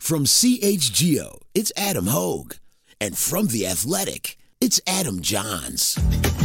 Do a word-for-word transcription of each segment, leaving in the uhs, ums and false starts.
From C H G O, it's Adam Hogue. And from The Athletic, it's Adam Johns.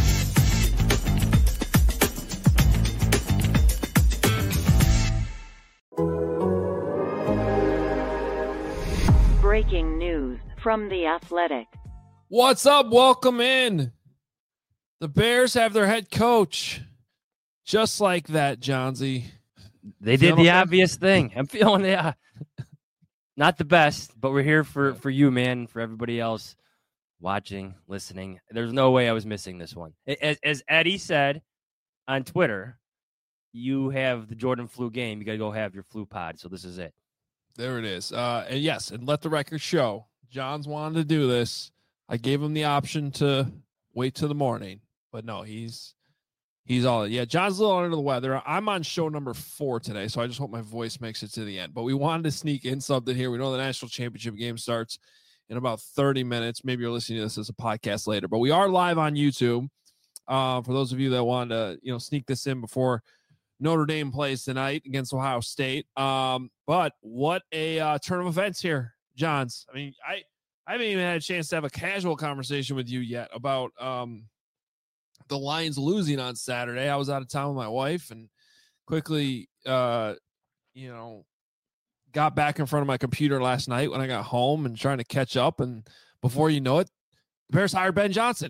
Breaking news from The Athletic. What's up? Welcome in. The Bears have their head coach. Just like that, Johnsy. They did the obvious thing. I'm feeling it. Uh, not the best, but we're here for, for you, man, for everybody else watching, listening. There's no way I was missing this one. As, as Eddie said on Twitter, you have the Jordan flu game. You got to go have your flu pod, so this is it. There it is. Uh, and yes, and let the record show. Johns wanted to do this. I gave him the option to wait till the morning, but no, he's he's all yeah. John's a little under the weather. I'm on show number four today, so I just hope my voice makes it to the end. But we wanted to sneak in something here. We know the national championship game starts in about thirty minutes. Maybe you're listening to this as a podcast later, but we are live on YouTube. Uh, for those of you that want to, you know, sneak this in before Notre Dame plays tonight against Ohio State. Um, but what a uh, turn of events here, Johns. I mean, I. I haven't even had a chance to have a casual conversation with you yet about um, the Lions losing on Saturday. I was out of town with my wife and quickly, uh, you know, got back in front of my computer last night when I got home and trying to catch up. And before you know it, the Bears hired Ben Johnson.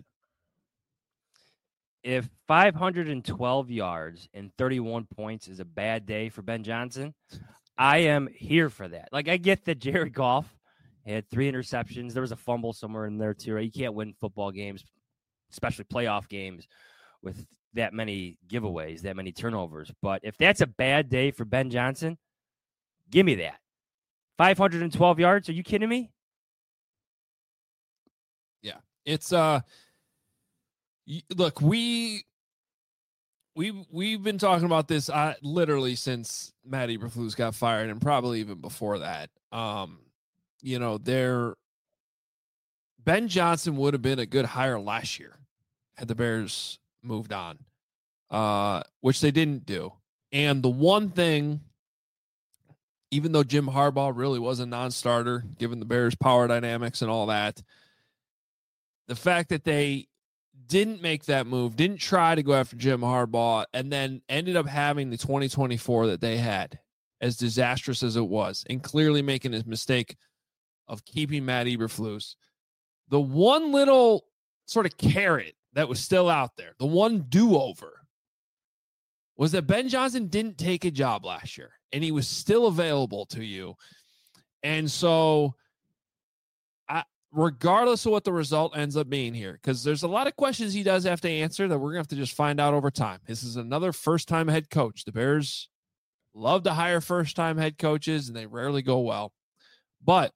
If five hundred twelve yards and thirty-one points is a bad day for Ben Johnson, I am here for that. Like, I get that Jared Goff had three interceptions. There was a fumble somewhere in there too. Right? You can't win football games, especially playoff games, with that many giveaways, that many turnovers. But if that's a bad day for Ben Johnson, give me that. five hundred twelve yards? Are you kidding me? Yeah. It's, uh, look, we, we, we've been talking about this uh, literally since Matt Eberflus got fired and probably even before that. Um, You know, there, Ben Johnson would have been a good hire last year had the Bears moved on, uh, which they didn't do. And the one thing, even though Jim Harbaugh really was a non-starter, given the Bears' power dynamics and all that, the fact that they didn't make that move, didn't try to go after Jim Harbaugh, and then ended up having the twenty twenty-four that they had, as disastrous as it was, and clearly making a mistake of keeping Matt Eberflus. The one little sort of carrot that was still out there, the one do-over, was that Ben Johnson didn't take a job last year, and he was still available to you. And so, I, regardless of what the result ends up being here, because there's a lot of questions he does have to answer that we're going to have to just find out over time. This is another first-time head coach. The Bears love to hire first-time head coaches, and they rarely go well. But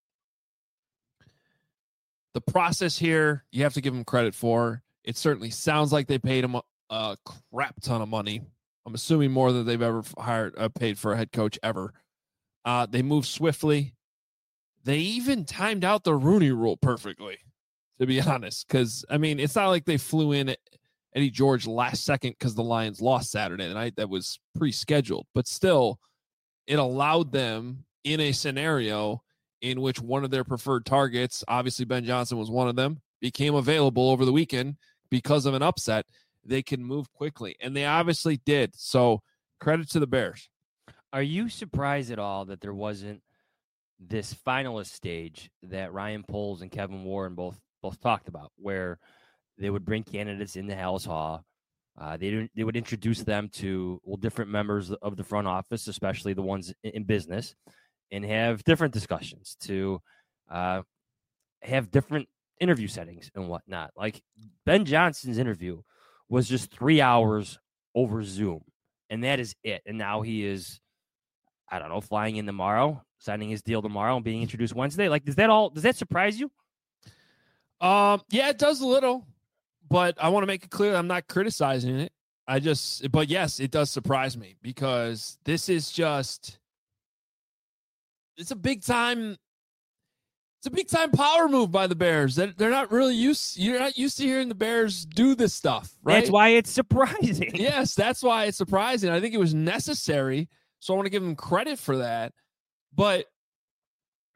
the process here, you have to give him credit for. It certainly sounds like they paid him a, a crap ton of money. I'm assuming more than they've ever hired, uh, paid for a head coach ever. Uh, they moved swiftly. They even timed out the Rooney Rule perfectly, to be honest. Because, I mean, it's not like they flew in Eddie George last second because the Lions lost Saturday night. That was pre-scheduled. But still, it allowed them in a scenario in which one of their preferred targets, obviously Ben Johnson was one of them, became available over the weekend because of an upset. They can move quickly, and they obviously did. So credit to the Bears. Are you surprised at all that there wasn't this finalist stage that Ryan Poles and Kevin Warren both both talked about, where they would bring candidates into Halas Hall? Uh, they they would introduce them to well different members of the front office, especially the ones in business, and have different discussions to uh, have different interview settings and whatnot. Like Ben Johnson's interview was just three hours over Zoom, and that is it. And now he is, I don't know, flying in tomorrow, signing his deal tomorrow, and being introduced Wednesday. Like, does that all does that surprise you? Um, yeah, it does a little, but I want to make it clear I'm not criticizing it. I just, but yes, it does surprise me because this is just, it's a big time, it's a big time power move by the Bears. That they're not really used, you're not used to hearing the Bears do this stuff, right? That's why it's surprising. Yes, that's why it's surprising. I think it was necessary, so I want to give them credit for that. But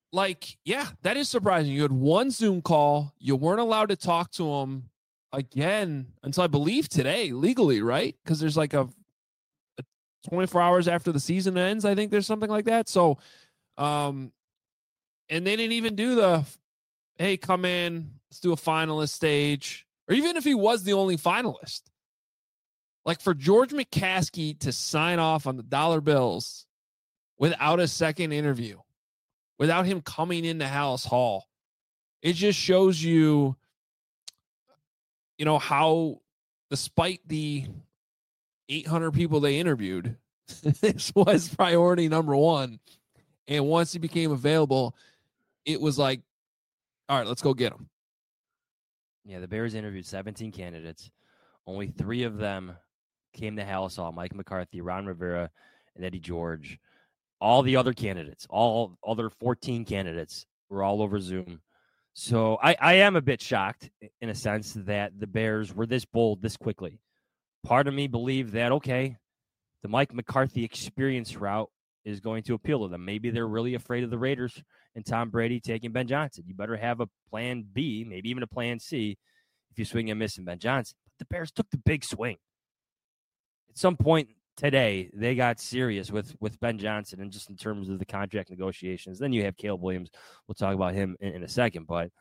like, yeah, that is surprising. You had one Zoom call. You weren't allowed to talk to him again until I believe today, legally, right? Because there's like a, a twenty-four hours after the season ends. I think there's something like that. So, um, and they didn't even do the, hey, come in, let's do a finalist stage. Or even if he was the only finalist, like for George McCaskey to sign off on the dollar bills without a second interview, without him coming into Halas Hall, it just shows you, you know, how despite the eight hundred people they interviewed, this was priority number one. And once he became available, it was like, all right, let's go get him. Yeah, the Bears interviewed seventeen candidates. Only three of them came to Halas Hall: Mike McCarthy, Ron Rivera, and Eddie George. All the other candidates, all other fourteen candidates, were all over Zoom. So I, I am a bit shocked, in a sense, that the Bears were this bold this quickly. Part of me believed that, okay, the Mike McCarthy experience route is going to appeal to them. Maybe they're really afraid of the Raiders and Tom Brady taking Ben Johnson. You better have a plan B, maybe even a plan C, if you swing and miss in Ben Johnson. But the Bears took the big swing. At some point today, they got serious with, with Ben Johnson, and just in terms of the contract negotiations. Then you have Caleb Williams. We'll talk about him in, in a second. But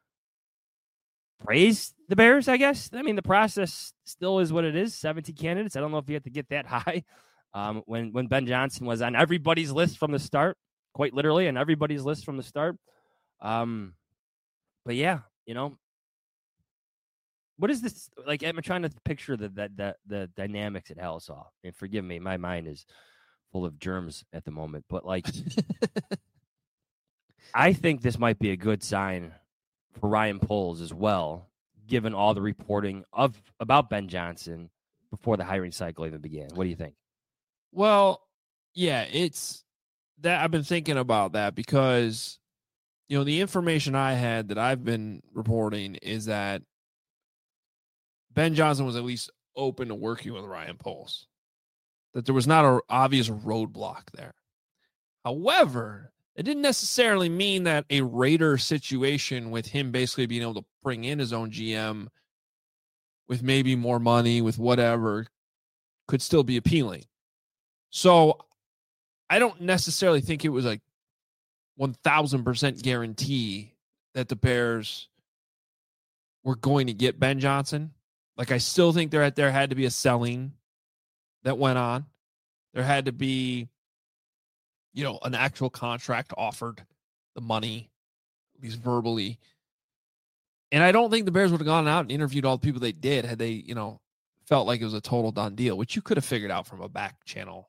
praise the Bears, I guess. I mean, the process still is what it is. seventy candidates. I don't know if you have to get that high. Um, when, when Ben Johnson was on everybody's list from the start, quite literally, on everybody's list from the start. Um, but yeah, you know, what is this? Like, I'm trying to picture the the the, the dynamics at Halas Hall. And forgive me, my mind is full of germs at the moment. But like, I think this might be a good sign for Ryan Poles as well, given all the reporting of about Ben Johnson before the hiring cycle even began. What do you think? Well, yeah, it's that I've been thinking about that because, you know, the information I had that I've been reporting is that Ben Johnson was at least open to working with Ryan Poles, that there was not an obvious roadblock there. However, it didn't necessarily mean that a Raider situation with him basically being able to bring in his own G M with maybe more money, with whatever, could still be appealing. So I don't necessarily think it was a one thousand percent guarantee that the Bears were going to get Ben Johnson. Like, I still think there, there had to be a selling that went on. There had to be, you know, an actual contract offered, the money, at least verbally. And I don't think the Bears would have gone out and interviewed all the people they did had they, you know, felt like it was a total done deal, which you could have figured out from a back channel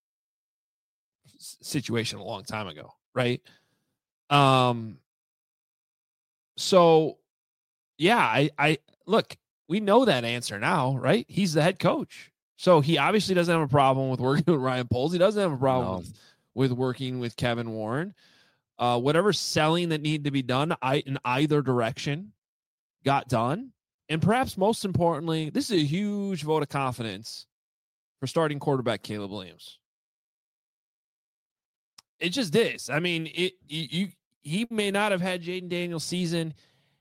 situation a long time ago, right? Um. So, yeah, I, I look, we know that answer now, right? He's the head coach, so he obviously doesn't have a problem with working with Ryan Poles. He doesn't have a problem No. with, with working with Kevin Warren. Uh, whatever selling that needed to be done, I in either direction, got done. And perhaps most importantly, this is a huge vote of confidence for starting quarterback Caleb Williams. It just is. I mean, it you, you he may not have had Jaden Daniels' season.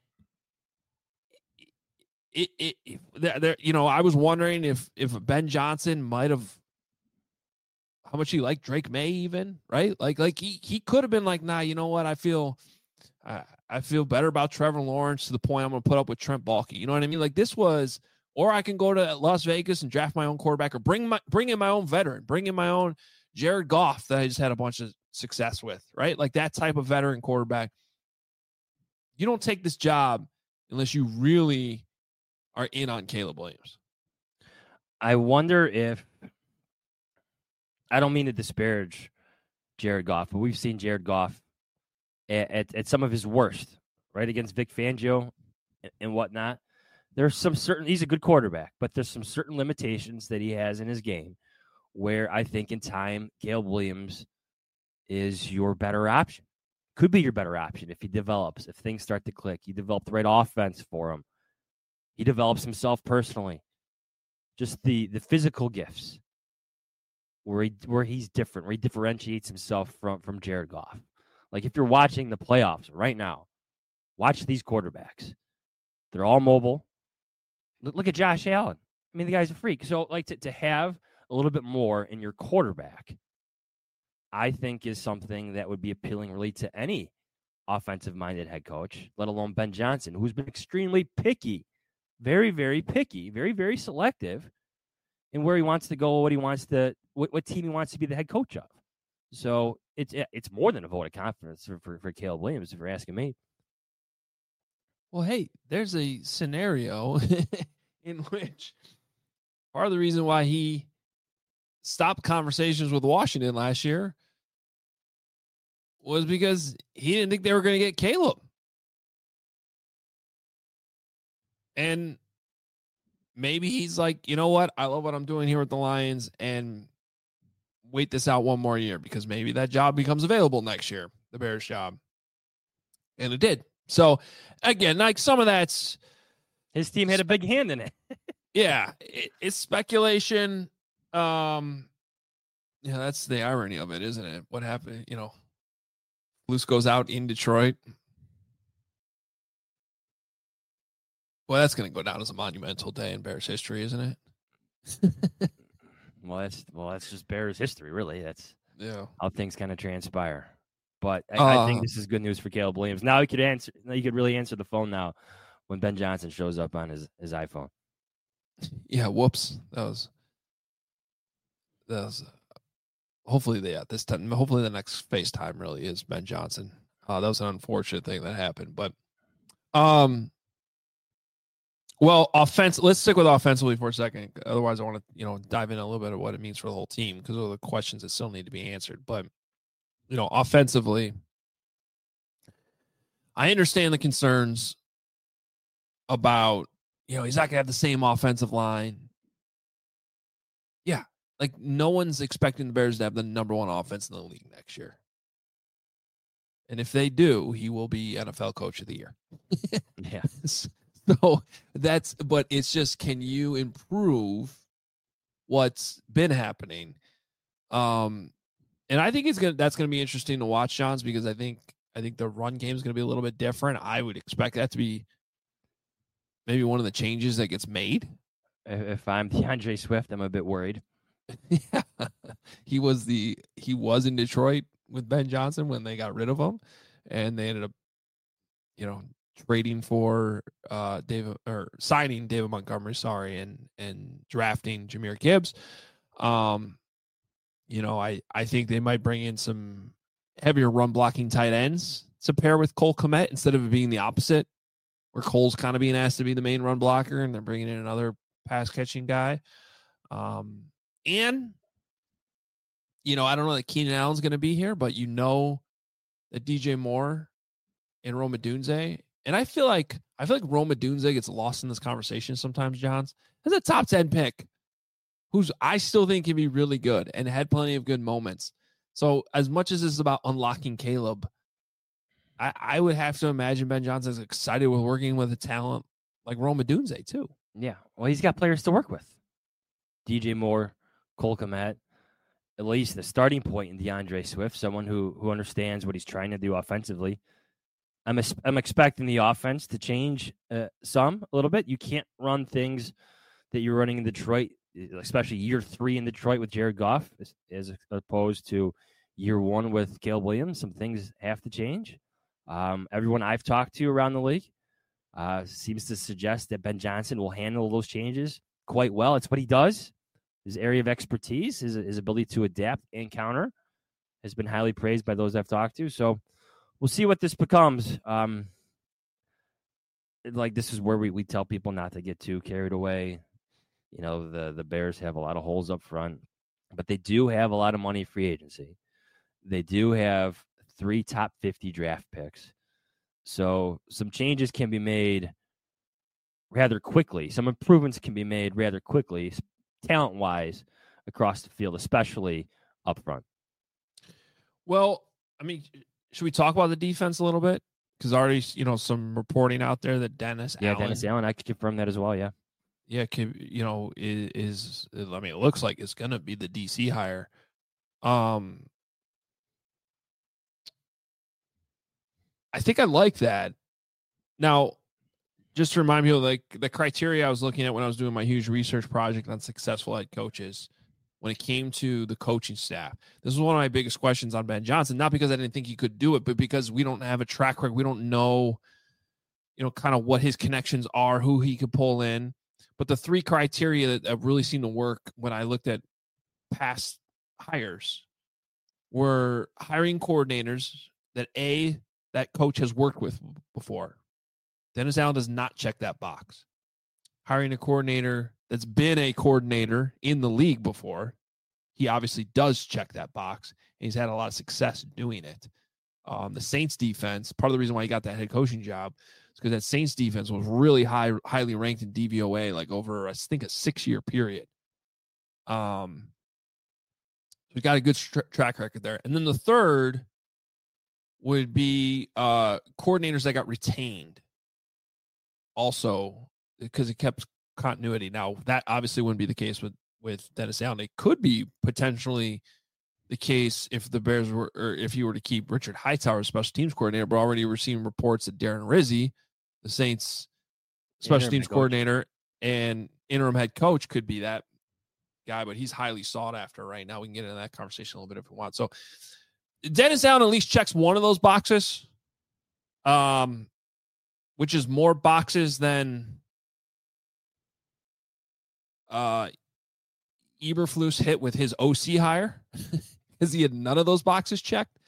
It it, it there, you know, I was wondering if if Ben Johnson might have how much he liked Drake May even, right? Like like he he could have been like, nah, you know what? I feel I, I feel better about Trevor Lawrence to the point I'm going to put up with Trent Baalke. You know what I mean? Like this was, or I can go to Las Vegas and draft my own quarterback, or bring my bring in my own veteran, bring in my own Jared Goff that I just had a bunch of success with, right? Like that type of veteran quarterback. You don't take this job unless you really are in on Caleb Williams. I wonder if, I don't mean to disparage Jared Goff, but we've seen Jared Goff at, at, at some of his worst, right? Against Vic Fangio and, and whatnot. There's some certain, he's a good quarterback, but there's some certain limitations that he has in his game where I think in time, Caleb Williams is your better option. Could be your better option if he develops, if things start to click. You develop the right offense for him. He develops himself personally. Just the the physical gifts where he where he's different, where he differentiates himself from, from Jared Goff. Like if you're watching the playoffs right now, watch these quarterbacks. They're all mobile. Look, look at Josh Allen. I mean, the guy's a freak. So, like, to, to have a little bit more in your quarterback, I think is something that would be appealing really to any offensive-minded head coach, let alone Ben Johnson, who's been extremely picky, very, very picky, very, very selective in where he wants to go, what he wants to, what, what team he wants to be the head coach of. So it's it's more than a vote of confidence for, for, for Caleb Williams, if you're asking me. Well, hey, there's a scenario in which part of the reason why he stopped conversations with Washington last year was because he didn't think they were going to get Caleb. And maybe he's like, you know what? I love what I'm doing here with the Lions and wait this out one more year because maybe that job becomes available next year, the Bears job. And it did. So, again, like some of that's... His team had a big hand in it. Yeah, it, it's speculation. Um, yeah, that's the irony of it, isn't it? What happened, you know, Luce goes out in Detroit. Well, that's going to go down as a monumental day in Bears history, isn't it? well, that's well, that's just Bears history, really. That's yeah how things kind of transpire. But I, uh, I think this is good news for Caleb Williams. Now he could answer. Now you could really answer the phone now when Ben Johnson shows up on his, his iPhone. Yeah, whoops. That was that was. Hopefully, they yeah, this time. Hopefully, the next FaceTime really is Ben Johnson. Uh, that was an unfortunate thing that happened, but um. Well, offense. Let's stick with offensively for a second. Otherwise, I want to, you know, dive in a little bit of what it means for the whole team because those are the questions that still need to be answered. But, you know, offensively, I understand the concerns about, you know, he's not going to have the same offensive line. Yeah, like no one's expecting the Bears to have the number one offense in the league next year. And if they do, he will be N F L Coach of the Year. Yeah. So that's, but it's just, can you improve what's been happening? Um, and I think it's gonna, that's gonna be interesting to watch, Johns, because I think, I think the run game is gonna be a little bit different. I would expect that to be maybe one of the changes that gets made. If I'm DeAndre Swift, I'm a bit worried. Yeah, he was the, he was in Detroit with Ben Johnson when they got rid of him, and they ended up, you know, trading for uh David or signing David Montgomery, sorry, and and drafting Jahmyr Gibbs. Um, you know, I I think they might bring in some heavier run blocking tight ends to pair with Cole Kmet instead of it being the opposite, where Cole's kind of being asked to be the main run blocker and they're bringing in another pass catching guy. Um, and you know, I don't know that Keenan Allen's going to be here, but you know that D J Moore and Rome Odunze. And I feel like I feel like Rome Odunze gets lost in this conversation sometimes, Johns. As a top ten pick, who's I still think can be really good and had plenty of good moments. So as much as this is about unlocking Caleb, I, I would have to imagine Ben Johnson is excited with working with a talent like Rome Odunze too. Yeah, well, he's got players to work with. D J Moore, Cole Kmet, at least the starting point in DeAndre Swift, someone who who understands what he's trying to do offensively. I'm I'm expecting the offense to change uh, some a little bit. You can't run things that you're running in Detroit, especially year three in Detroit with Jared Goff, as, as opposed to year one with Caleb Williams. Some things have to change. Um, everyone I've talked to around the league uh, seems to suggest that Ben Johnson will handle those changes quite well. It's what he does. His area of expertise, his, his ability to adapt and counter has been highly praised by those I've talked to. So we'll see what this becomes. Um, like this is where we, we tell people not to get too carried away. You know, the, the Bears have a lot of holes up front, but they do have a lot of money free agency. They do have three top fifty draft picks. So some changes can be made rather quickly. Some improvements can be made rather quickly, talent-wise, across the field, especially up front. Well, I mean, should we talk about the defense a little bit? Because already, you know, some reporting out there that Dennis yeah, Allen. Dennis Allen, I could confirm that as well, yeah. Yeah, can, you know, is, is I mean, it looks like it's going to be the D C hire. Um, I think I like that. Now, just to remind me of like the criteria I was looking at when I was doing my huge research project on successful head coaches, when it came to the coaching staff, this was one of my biggest questions on Ben Johnson, not because I didn't think he could do it, but because we don't have a track record. We don't know, you know, kind of what his connections are, who he could pull in. But the three criteria that have really seemed to work when I looked at past hires were hiring coordinators that A, that coach has worked with before. Dennis Allen does not check that box. Hiring a coordinator that's been a coordinator in the league before. He obviously does check that box, and he's had a lot of success doing it. Um, the Saints defense, part of the reason why he got that head coaching job is because that Saints defense was really high, highly ranked in D V O A, like over, I think, a six-year period. Um, we got a good tra- track record there. And then the third would be uh, coordinators that got retained also, because it kept continuity. Now, that obviously wouldn't be the case with, with Dennis Allen. It could be potentially the case if the Bears were, or if you were to keep Richard Hightower as special teams coordinator, but already we're seeing reports that Darren Rizzi, the Saints special Interim teams coach. coordinator and interim head coach, could be that guy, but he's highly sought after right now. We can get into that conversation a little bit if we want. So Dennis Allen at least checks one of those boxes, um, which is more boxes than uh, Eberflus hit with his O C hire, because he had none of those boxes checked.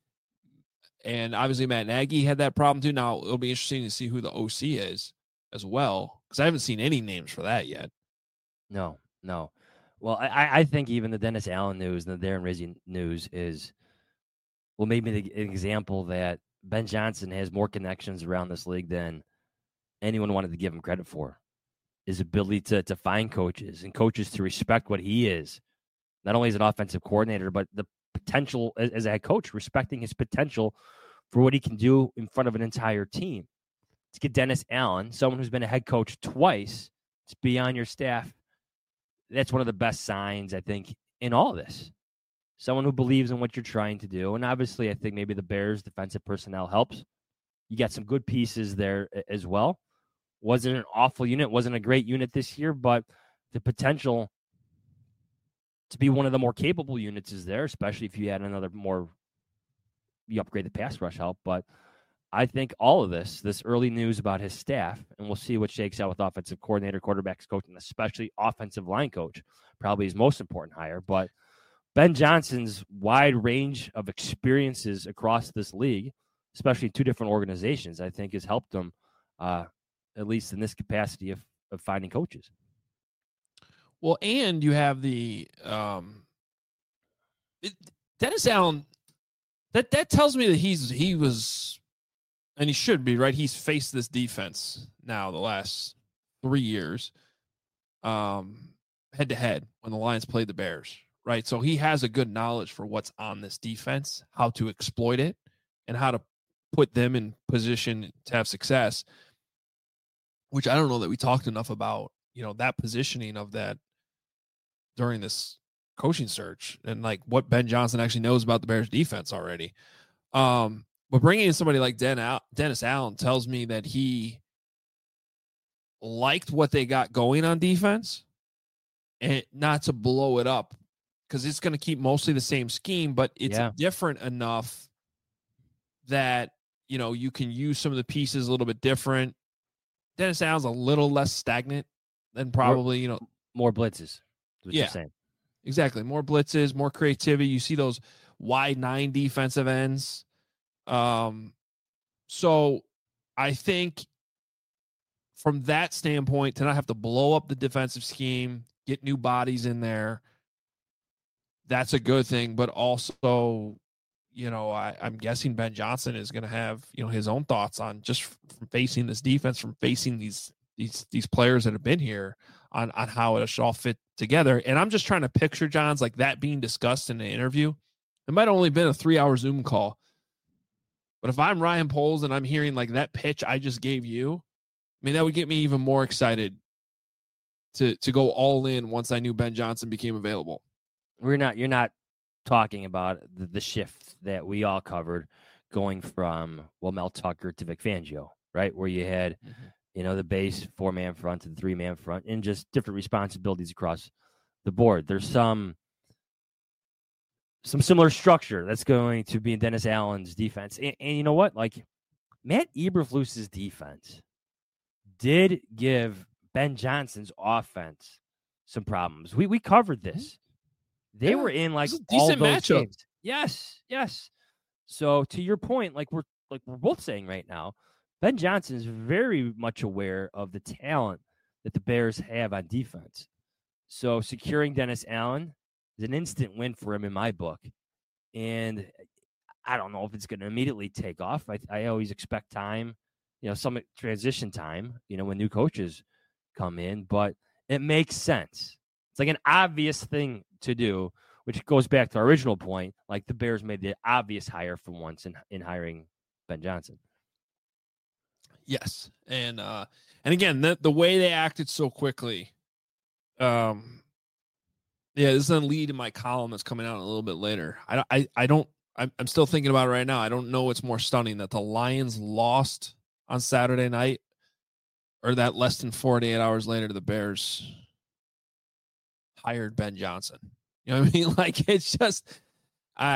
And obviously Matt Nagy had that problem too. Now it'll be interesting to see who the O C is as well, because I haven't seen any names for that yet. No, no. Well, I, I think even the Dennis Allen news and the Darren Rizzi news is, well, maybe the, an example that Ben Johnson has more connections around this league than anyone wanted to give him credit for. His ability to to find coaches and coaches to respect what he is, not only as an offensive coordinator, but the potential as, as a head coach, respecting his potential for what he can do in front of an entire team. To get Dennis Allen, someone who's been a head coach twice, to be on your staff, that's one of the best signs, I think, in all of this. Someone who believes in what you're trying to do. And obviously, I think maybe the Bears' defensive personnel helps. You got some good pieces there as well. Wasn't an awful unit, wasn't a great unit this year, but the potential to be one of the more capable units is there, especially if you add another more, you upgrade the pass rush help. But I think all of this, this early news about his staff, and we'll see what shakes out with offensive coordinator, quarterbacks coach, and especially offensive line coach, probably his most important hire. But Ben Johnson's wide range of experiences across this league, especially two different organizations, I think has helped him, uh, at least in this capacity of, of finding coaches. Well, and you have the um, it, Dennis Allen. That that tells me that he's he was, and he should be, right. He's faced this defense now the last three years, um, head to head when the Lions played the Bears, right. So he has a good knowledge for what's on this defense, how to exploit it, and how to put them in position to have success. Which I don't know that we talked enough about, you know, that positioning of that during this coaching search, and like what Ben Johnson actually knows about the Bears defense already. Um, but bringing in somebody like Den Al- Dennis Allen tells me that he liked what they got going on defense, and not to blow it up, because it's going to keep mostly the same scheme, but it's Yeah. different enough that, you know, you can use some of the pieces a little bit different. Dennis Allen's a little less stagnant than probably, you know, More blitzes. What Yeah. you're saying. exactly. More blitzes, more creativity. You see those wide nine defensive ends. Um, so I think from that standpoint, to not have to blow up the defensive scheme, get new bodies in there, that's a good thing. But also, you know, I, I'm guessing Ben Johnson is going to have, you know, his own thoughts on just from facing this defense, from facing these these these players that have been here, on on how it should all fit together. And I'm just trying to picture, John's, like that being discussed in an interview. It might have only been a three hour Zoom call, but if I'm Ryan Poles and I'm hearing like that pitch I just gave you, I mean, that would get me even more excited to to go all in once I knew Ben Johnson became available. We're not, you're not talking about the, the shift that we all covered going from, well, Mel Tucker to Vic Fangio, right? Where you had, mm-hmm. you know, the base four-man front to the three-man front and just different responsibilities across the board. There's some some similar structure that's going to be in Dennis Allen's defense. And, and you know what? Like, Matt Eberflus's defense did give Ben Johnson's offense some problems. We we covered this. They yeah, were in like all those matchup. games. Yes, yes. So to your point, like we're like we're both saying right now, Ben Johnson is very much aware of the talent that the Bears have on defense. So securing Dennis Allen is an instant win for him in my book. And I don't know if it's going to immediately take off. I, I always expect time, you know, some transition time, you know, when new coaches come in, but it makes sense. It's like an obvious thing to do, which goes back to our original point. Like the Bears made the obvious hire for once in, in hiring Ben Johnson. Yes. And, uh, and again, the, the way they acted so quickly, um, yeah, this is going to lead in my column that's coming out a little bit later. I, I, I don't, I'm, I'm still thinking about it right now. I don't know what's more stunning, that the Lions lost on Saturday night or that less than forty-eight hours later the Bears hired Ben Johnson. You know what I mean? Like, it's just, I,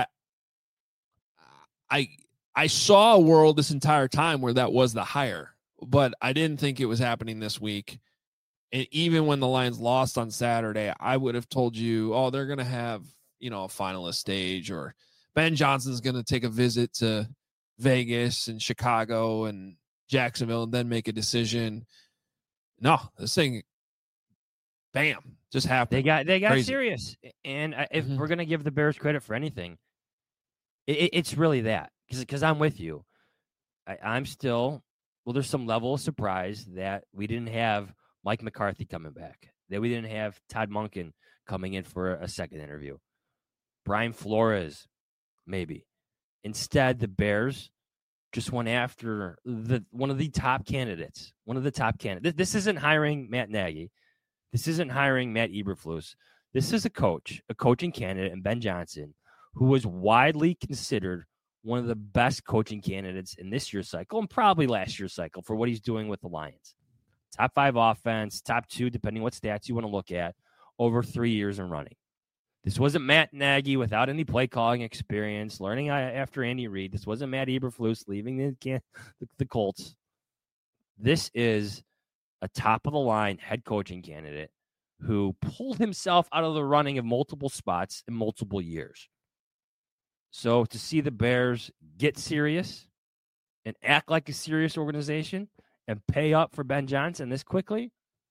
I, I saw a world this entire time where that was the hire, but I didn't think it was happening this week. And even when the Lions lost on Saturday, I would have told you, oh, they're going to have, you know, a finalist stage, or Ben Johnson's going to take a visit to Vegas and Chicago and Jacksonville and then make a decision. No, this thing, bam, just happened. They got they got Crazy. serious. And if mm-hmm. we're going to give the Bears credit for anything, it, it's really that. Because I'm with you. I, I'm still, well, there's some level of surprise that we didn't have Mike McCarthy coming back, that we didn't have Todd Monken coming in for a second interview. Brian Flores, maybe. Instead, the Bears just went after the one of the top candidates, one of the top candidates. This isn't hiring Matt Nagy. This isn't hiring Matt Eberflus. This is a coach, a coaching candidate, and Ben Johnson, who was widely considered one of the best coaching candidates in this year's cycle and probably last year's cycle for what he's doing with the Lions. Top five offense, top two, depending what stats you want to look at, over three years in running. This wasn't Matt Nagy without any play calling experience, learning after Andy Reid. This wasn't Matt Eberflus leaving the, the Colts. This is a top-of-the-line head coaching candidate who pulled himself out of the running of multiple spots in multiple years. So to see the Bears get serious and act like a serious organization and pay up for Ben Johnson this quickly,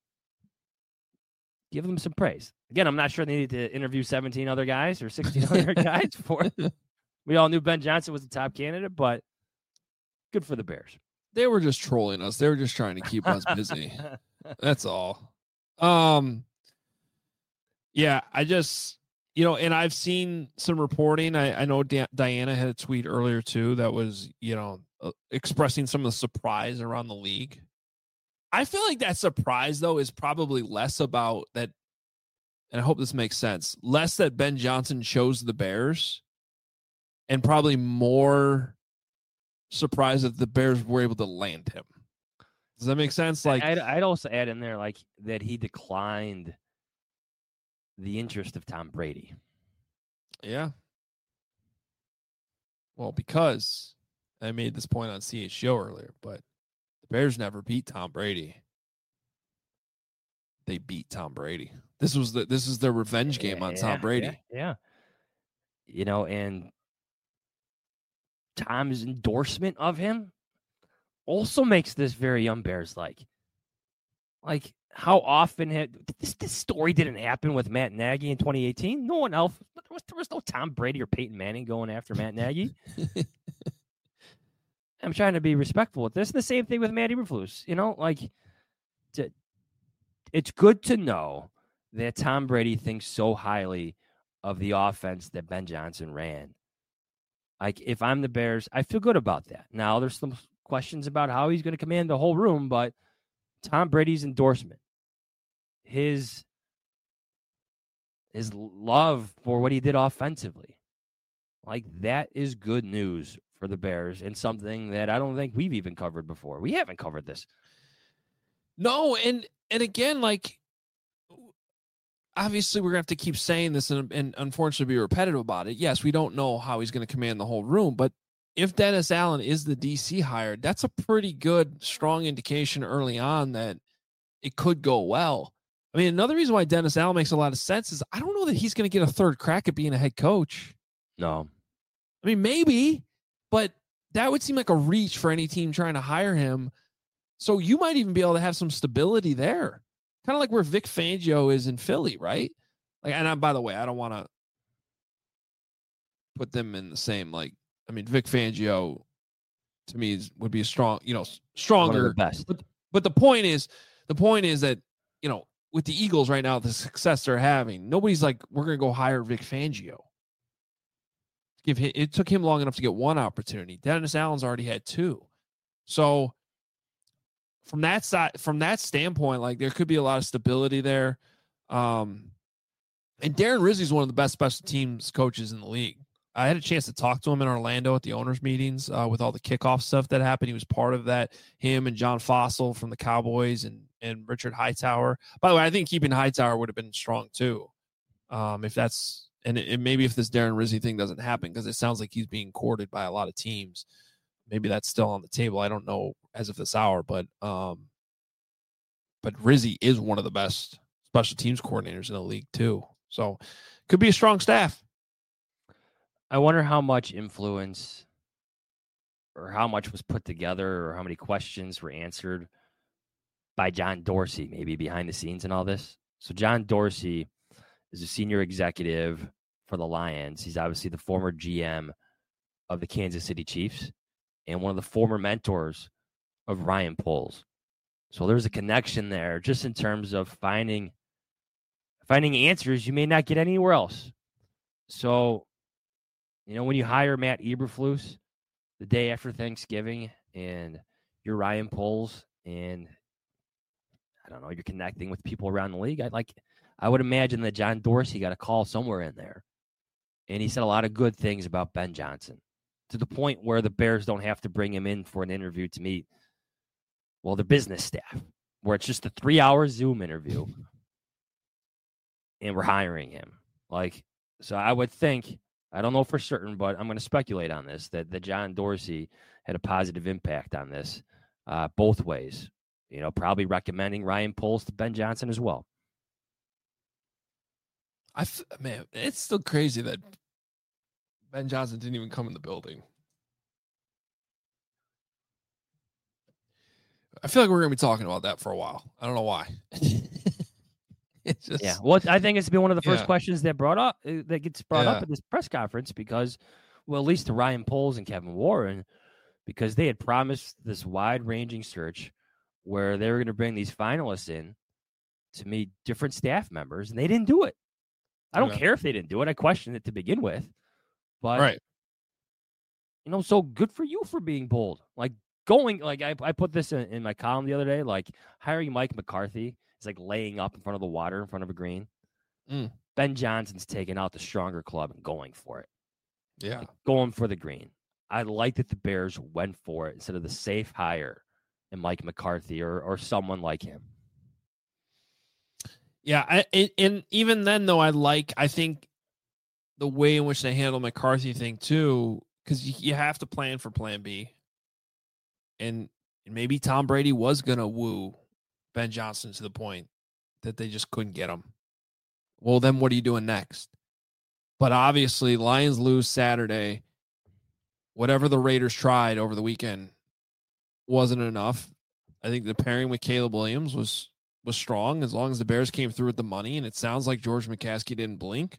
give them some praise. Again, I'm not sure they needed to interview seventeen other guys or sixteen other guys for it. We all knew Ben Johnson was the top candidate, but good for the Bears. They were just trolling us. They were just trying to keep us busy. That's all. Um, yeah, I just, you know, and I've seen some reporting. I, I know Da- Diana had a tweet earlier too that was, you know, uh, expressing some of the surprise around the league. I feel like that surprise, though, is probably less about that, and I hope this makes sense, less that Ben Johnson chose the Bears and probably more surprised that the Bears were able to land him. Does that make sense? Like, I'd, I'd also add in there, like, that he declined the interest of Tom Brady. Yeah. Well, because I made this point on C H O earlier, but the Bears never beat Tom Brady. They beat Tom Brady. This was the this is their revenge game on yeah, Tom Brady. Yeah, yeah. You know, and Tom's endorsement of him also makes this very un-Bears like. Like, how often had this, this story didn't happen with Matt Nagy in twenty eighteen? No one else. There was, there was no Tom Brady or Peyton Manning going after Matt Nagy. I'm trying to be respectful with this. The same thing with Matt Eberflus. You know, like, to, it's good to know that Tom Brady thinks so highly of the offense that Ben Johnson ran. Like, if I'm the Bears, I feel good about that. Now, there's some questions about how he's going to command the whole room, but Tom Brady's endorsement, his, his love for what he did offensively, like, that is good news for the Bears and something that I don't think we've even covered before. We haven't covered this. No, and and again, like, obviously we're going to have to keep saying this and, and unfortunately be repetitive about it. Yes, we don't know how he's going to command the whole room, but if Dennis Allen is the D C hire, that's a pretty good, strong indication early on that it could go well. I mean, another reason why Dennis Allen makes a lot of sense is I don't know that he's going to get a third crack at being a head coach. No. I mean, maybe, but that would seem like a reach for any team trying to hire him. So you might even be able to have some stability there. Kind of like where Vic Fangio is in Philly, right? Like, and I, by the way, I don't want to put them in the same, like, I mean, Vic Fangio to me is, would be a strong, you know, stronger. One of the best. But, but the point is, the point is that, you know, with the Eagles right now, the success they're having, nobody's like, we're going to go hire Vic Fangio. Give him, it took him long enough to get one opportunity. Dennis Allen's already had two. So from that side, from that standpoint, like there could be a lot of stability there. Um, and Darren Rizzi's one of the best special teams coaches in the league. I had a chance to talk to him in Orlando at the owners' meetings uh, with all the kickoff stuff that happened. He was part of that. Him and John Fossil from the Cowboys and and Richard Hightower. By the way, I think keeping Hightower would have been strong too. Um, if that's and it, it, maybe if this Darren Rizzi thing doesn't happen, because it sounds like he's being courted by a lot of teams. Maybe that's still on the table. I don't know as of this hour, but um, but Rizzi is one of the best special teams coordinators in the league too. So could be a strong staff. I wonder how much influence or how much was put together or how many questions were answered by John Dorsey, maybe behind the scenes and all this. So John Dorsey is a senior executive for the Lions. He's obviously the former G M of the Kansas City Chiefs and one of the former mentors of Ryan Poles. So there's a connection there just in terms of finding finding answers you may not get anywhere else. So, you know, when you hire Matt Eberflus the day after Thanksgiving and you're Ryan Poles and I don't know, you're connecting with people around the league, I like I would imagine that John Dorsey got a call somewhere in there. And he said a lot of good things about Ben Johnson to the point where the Bears don't have to bring him in for an interview to meet, well, the business staff, where it's just a three-hour Zoom interview and we're hiring him. Like, so I would think, I don't know for certain, but I'm going to speculate on this, that, that John Dorsey had a positive impact on this uh, both ways. You know, probably recommending Ryan Poles to Ben Johnson as well. I f- man, it's still crazy that Ben Johnson didn't even come in the building. I feel like we're going to be talking about that for a while. I don't know why. It's just, yeah. Well, I think it's been one of the first yeah. questions questions that brought up uh, that gets brought Yeah. up at this press conference because, well, at least to Ryan Poles and Kevin Warren, because they had promised this wide-ranging search where they were going to bring these finalists in to meet different staff members, and they didn't do it. I don't Yeah. care if they didn't do it. I questioned it to begin with, but right. you know, so good for you for being bold. Like going, like I, I put this in, in my column the other day, like hiring Mike McCarthy is like laying up in front of the water in front of a green. Mm. Ben Johnson's taking out the stronger club and going for it. Yeah. Like going for the green. I like that the Bears went for it instead of the safe hire in Mike McCarthy or or someone like him. Yeah. I, and, and even then, though, I like, I think the way in which they handle McCarthy thing, too, because you, you have to plan for plan B. And maybe Tom Brady was going to woo Ben Johnson to the point that they just couldn't get him. Well, then what are you doing next? But obviously, Lions lose Saturday. Whatever the Raiders tried over the weekend wasn't enough. I think the pairing with Caleb Williams was was strong as long as the Bears came through with the money, and it sounds like George McCaskey didn't blink.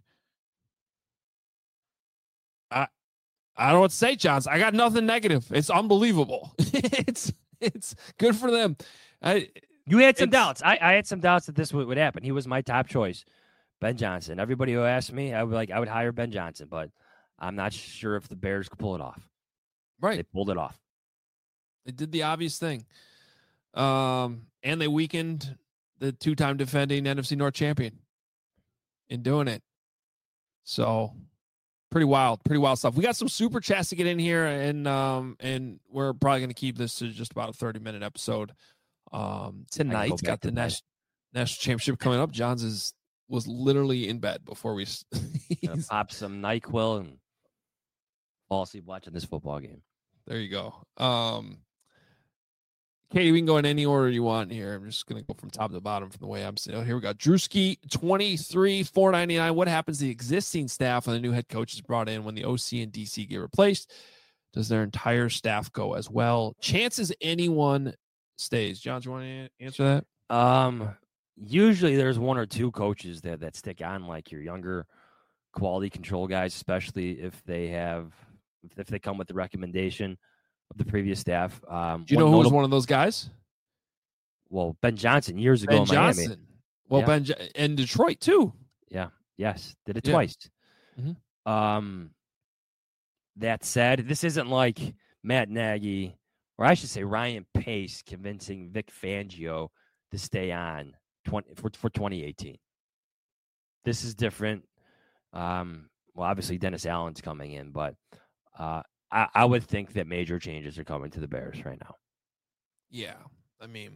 I I don't know what to say, Johns. I got nothing negative. It's unbelievable. it's it's good for them. I You had some doubts. I, I had some doubts that this would, would happen. He was my top choice, Ben Johnson. Everybody who asked me, I would like I would hire Ben Johnson, but I'm not sure if the Bears could pull it off. Right. They pulled it off. They did the obvious thing. Um, and they weakened the two-time defending N F C North champion in doing it. So pretty wild, pretty wild stuff. We got some super chats to get in here, and um, and we're probably going to keep this to just about a thirty minute episode. Um, tonight's got the national national championship coming up. John's is was literally in bed before we pop some NyQuil and fall asleep watching this football game. There you go. Um, Katie, we can go in any order you want here. I'm just going to go from top to bottom from the way I'm sitting. Oh, here we go. Drewski, twenty-three, four ninety-nine. What happens to the existing staff when the new head coach is brought in when the O C and D C get replaced? Does their entire staff go as well? Chances anyone stays. John, do you want to answer that? Um, usually there's one or two coaches that, that stick on, like your younger quality control guys, especially if they have, if they come with the recommendation of the previous staff. Um, Do you know who notable, was one of those guys? Well, Ben Johnson years ago Ben in Johnson. Miami. Well, yeah. Ben and Detroit too. Yeah. Yes. Did it yeah. twice. Mm-hmm. Um, that said, this isn't like Matt Nagy, or I should say Ryan Pace convincing Vic Fangio to stay on twenty for, for twenty eighteen. This is different. Um, well, obviously Dennis Allen's coming in, but uh, I, I would think that major changes are coming to the Bears right now. Yeah, I mean,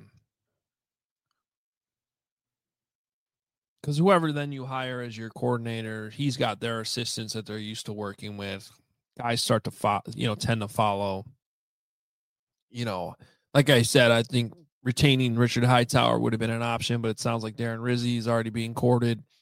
because whoever then you hire as your coordinator, he's got their assistants that they're used to working with. Guys start to follow, you know, tend to follow. You know, like I said, I think retaining Richard Hightower would have been an option, but it sounds like Darren Rizzi is already being courted. Do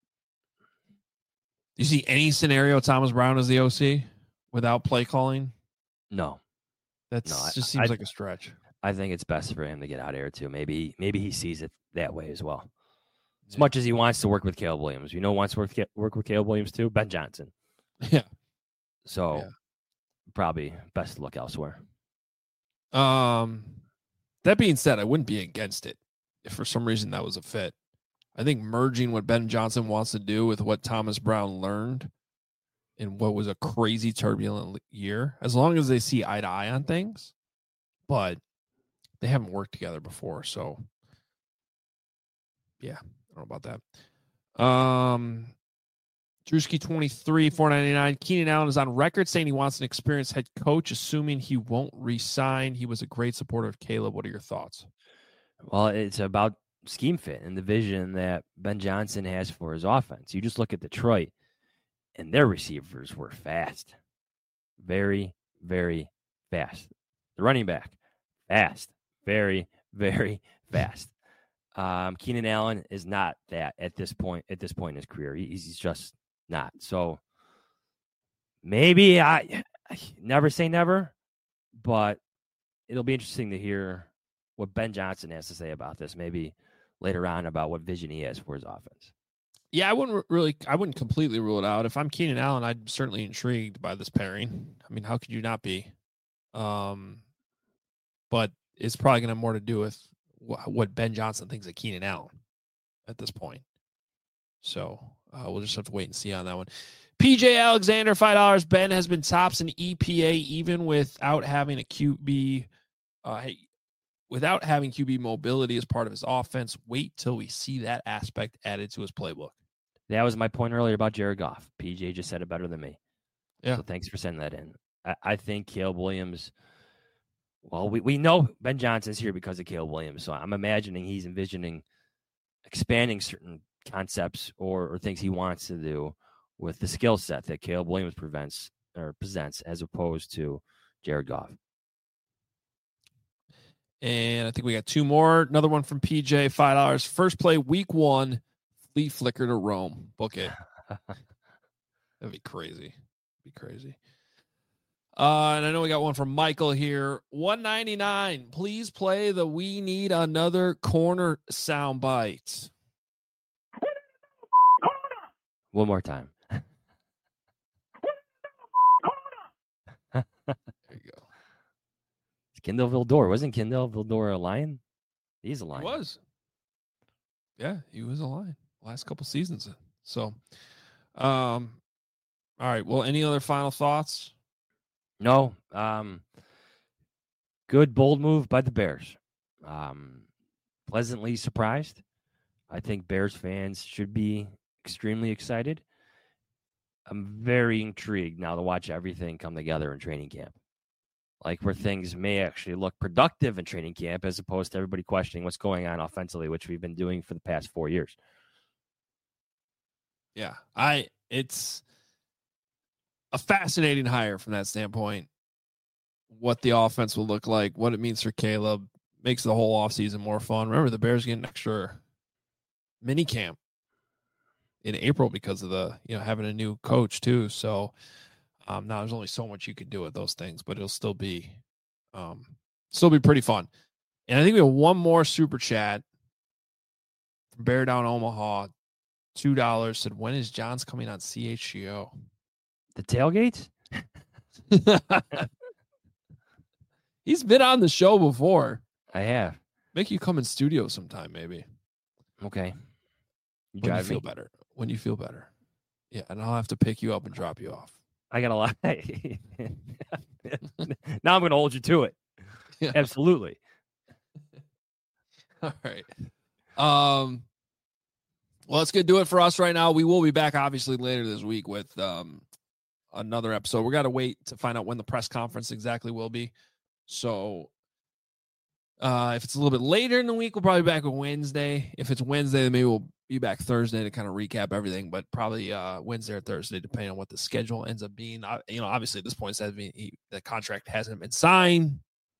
you see any scenario Thomas Brown as the O C without play calling? No. That no, just seems I, like a stretch. I think it's best for him to get out of here too. Maybe maybe he sees it that way as well. As much as he wants to work with Caleb Williams. You know who wants to work, work with Caleb Williams too? Ben Johnson. Yeah. So yeah. probably best to look elsewhere. Um, that being said, I wouldn't be against it if for some reason that was a fit. I think merging what Ben Johnson wants to do with what Thomas Brown learned in what was a crazy turbulent year, as long as they see eye to eye on things, but they haven't worked together before. So yeah, I don't know about that. Um, Drewski twenty-three, four ninety-nine. Keenan Allen is on record saying he wants an experienced head coach, assuming he won't resign. He was a great supporter of Caleb. What are your thoughts? Well, it's about scheme fit and the vision that Ben Johnson has for his offense. You just look at Detroit, and their receivers were fast. Very, very fast. The running back, fast. Very, very fast. Um, Keenan Allen is not that at this point, at this point in his career. He's, he's just not. So maybe I, I never say never, but it'll be interesting to hear what Ben Johnson has to say about this. Maybe later on about what vision he has for his offense. Yeah, I wouldn't really, I wouldn't completely rule it out. If I'm Keenan Allen, I'm certainly intrigued by this pairing. I mean, how could you not be? Um, but it's probably going to have more to do with wh- what Ben Johnson thinks of Keenan Allen at this point. So uh, we'll just have to wait and see on that one. P J Alexander, five dollars. Ben has been tops in E P A even without having a Q B. Uh, hey, without having Q B mobility as part of his offense. Wait till we see that aspect added to his playbook. That was my point earlier about Jared Goff. P J just said it better than me. Yeah. So thanks for sending that in. I, I think Caleb Williams, well, we, we know Ben Johnson's here because of Caleb Williams. So I'm imagining he's envisioning expanding certain concepts or, or things he wants to do with the skill set that Caleb Williams prevents or presents as opposed to Jared Goff. And I think we got two more. Another one from P J, five dollars. First play, week one, flea flicker to Rome. Book it. That'd be crazy. Be crazy. Uh, and I know we got one from Michael here. one ninety-nine. Please play the We Need Another Corner soundbite. One more time. There you go. Kendall Vildor. Wasn't Kendall Vildor a Lion? He's a Lion. He was. Yeah, he was a Lion last couple seasons. So, um, all right. Well, any other final thoughts? No. Um, good, bold move by the Bears. Um, pleasantly surprised. I think Bears fans should be extremely excited. I'm very intrigued now to watch everything come together in training camp. Like where things may actually look productive in training camp as opposed to everybody questioning what's going on offensively, which we've been doing for the past four years. Yeah, I it's a fascinating hire from that standpoint. What the offense will look like, what it means for Caleb, makes the whole offseason more fun. Remember, the Bears get an extra mini camp in April because of the, you know, having a new coach too. So um, now there's only so much you can do with those things, but it'll still be, um, still be pretty fun. And I think we have one more super chat from Bear Down Omaha. two dollars said, when is Johns coming on C H G O? The tailgates? He's been on the show before. I have. Make you come in studio sometime, maybe. Okay. You when you drive feel me. better. When you feel better. Yeah, and I'll have to pick you up and drop you off. I gotta lie. Now I'm gonna hold you to it. Yeah. Absolutely. All right. Um well, that's gonna do it for us right now. We will be back obviously later this week with um another episode. We gotta wait to find out when the press conference exactly will be. So uh if it's a little bit later in the week, we'll probably be back on Wednesday. If it's Wednesday, then maybe we'll be back Thursday to kind of recap everything, but probably uh Wednesday or Thursday, depending on what the schedule ends up being. I, you know, obviously at this point, it says he, the contract hasn't been signed.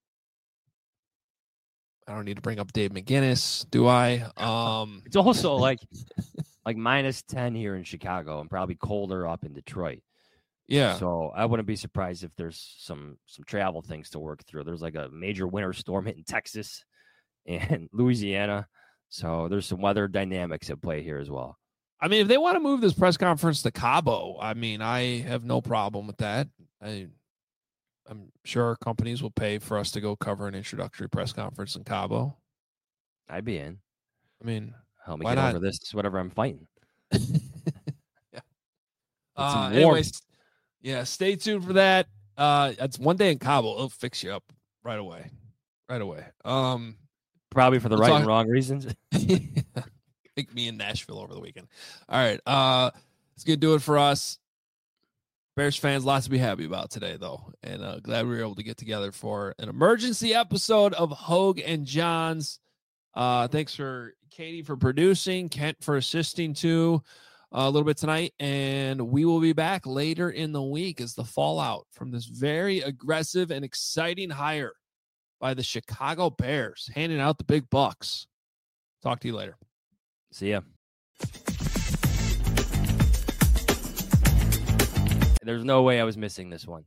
I don't need to bring up Dave McGinnis, do I? Um, It's also like like minus ten here in Chicago and probably colder up in Detroit. yeah. So I wouldn't be surprised if there's some some travel things to work through. There's like a major winter storm hitting Texas and Louisiana. So there's some weather dynamics at play here as well. I mean, if they want to move this press conference to Cabo, I mean, I have no problem with that. I, I'm sure companies will pay for us to go cover an introductory press conference in Cabo. I'd be in. I mean, Help me why get not? over this, whatever I'm fighting. yeah. Get some Uh, warmth. anyways, yeah, stay tuned for that. Uh, it's one day in Cabo. It'll fix you up right away. Right away. Um, Probably for the We'll right talk- and wrong reasons. Pick me in Nashville over the weekend. All right. Uh, it's going to do it for us. Bears fans, lots to be happy about today, though. And uh, glad we were able to get together for an emergency episode of Hogue and Johns. Uh, thanks for Katie for producing, Kent for assisting too uh, a little bit tonight. And we will be back later in the week as the fallout from this very aggressive and exciting hire by the Chicago Bears, handing out the big bucks. Talk to you later. See ya. There's no way I was missing this one.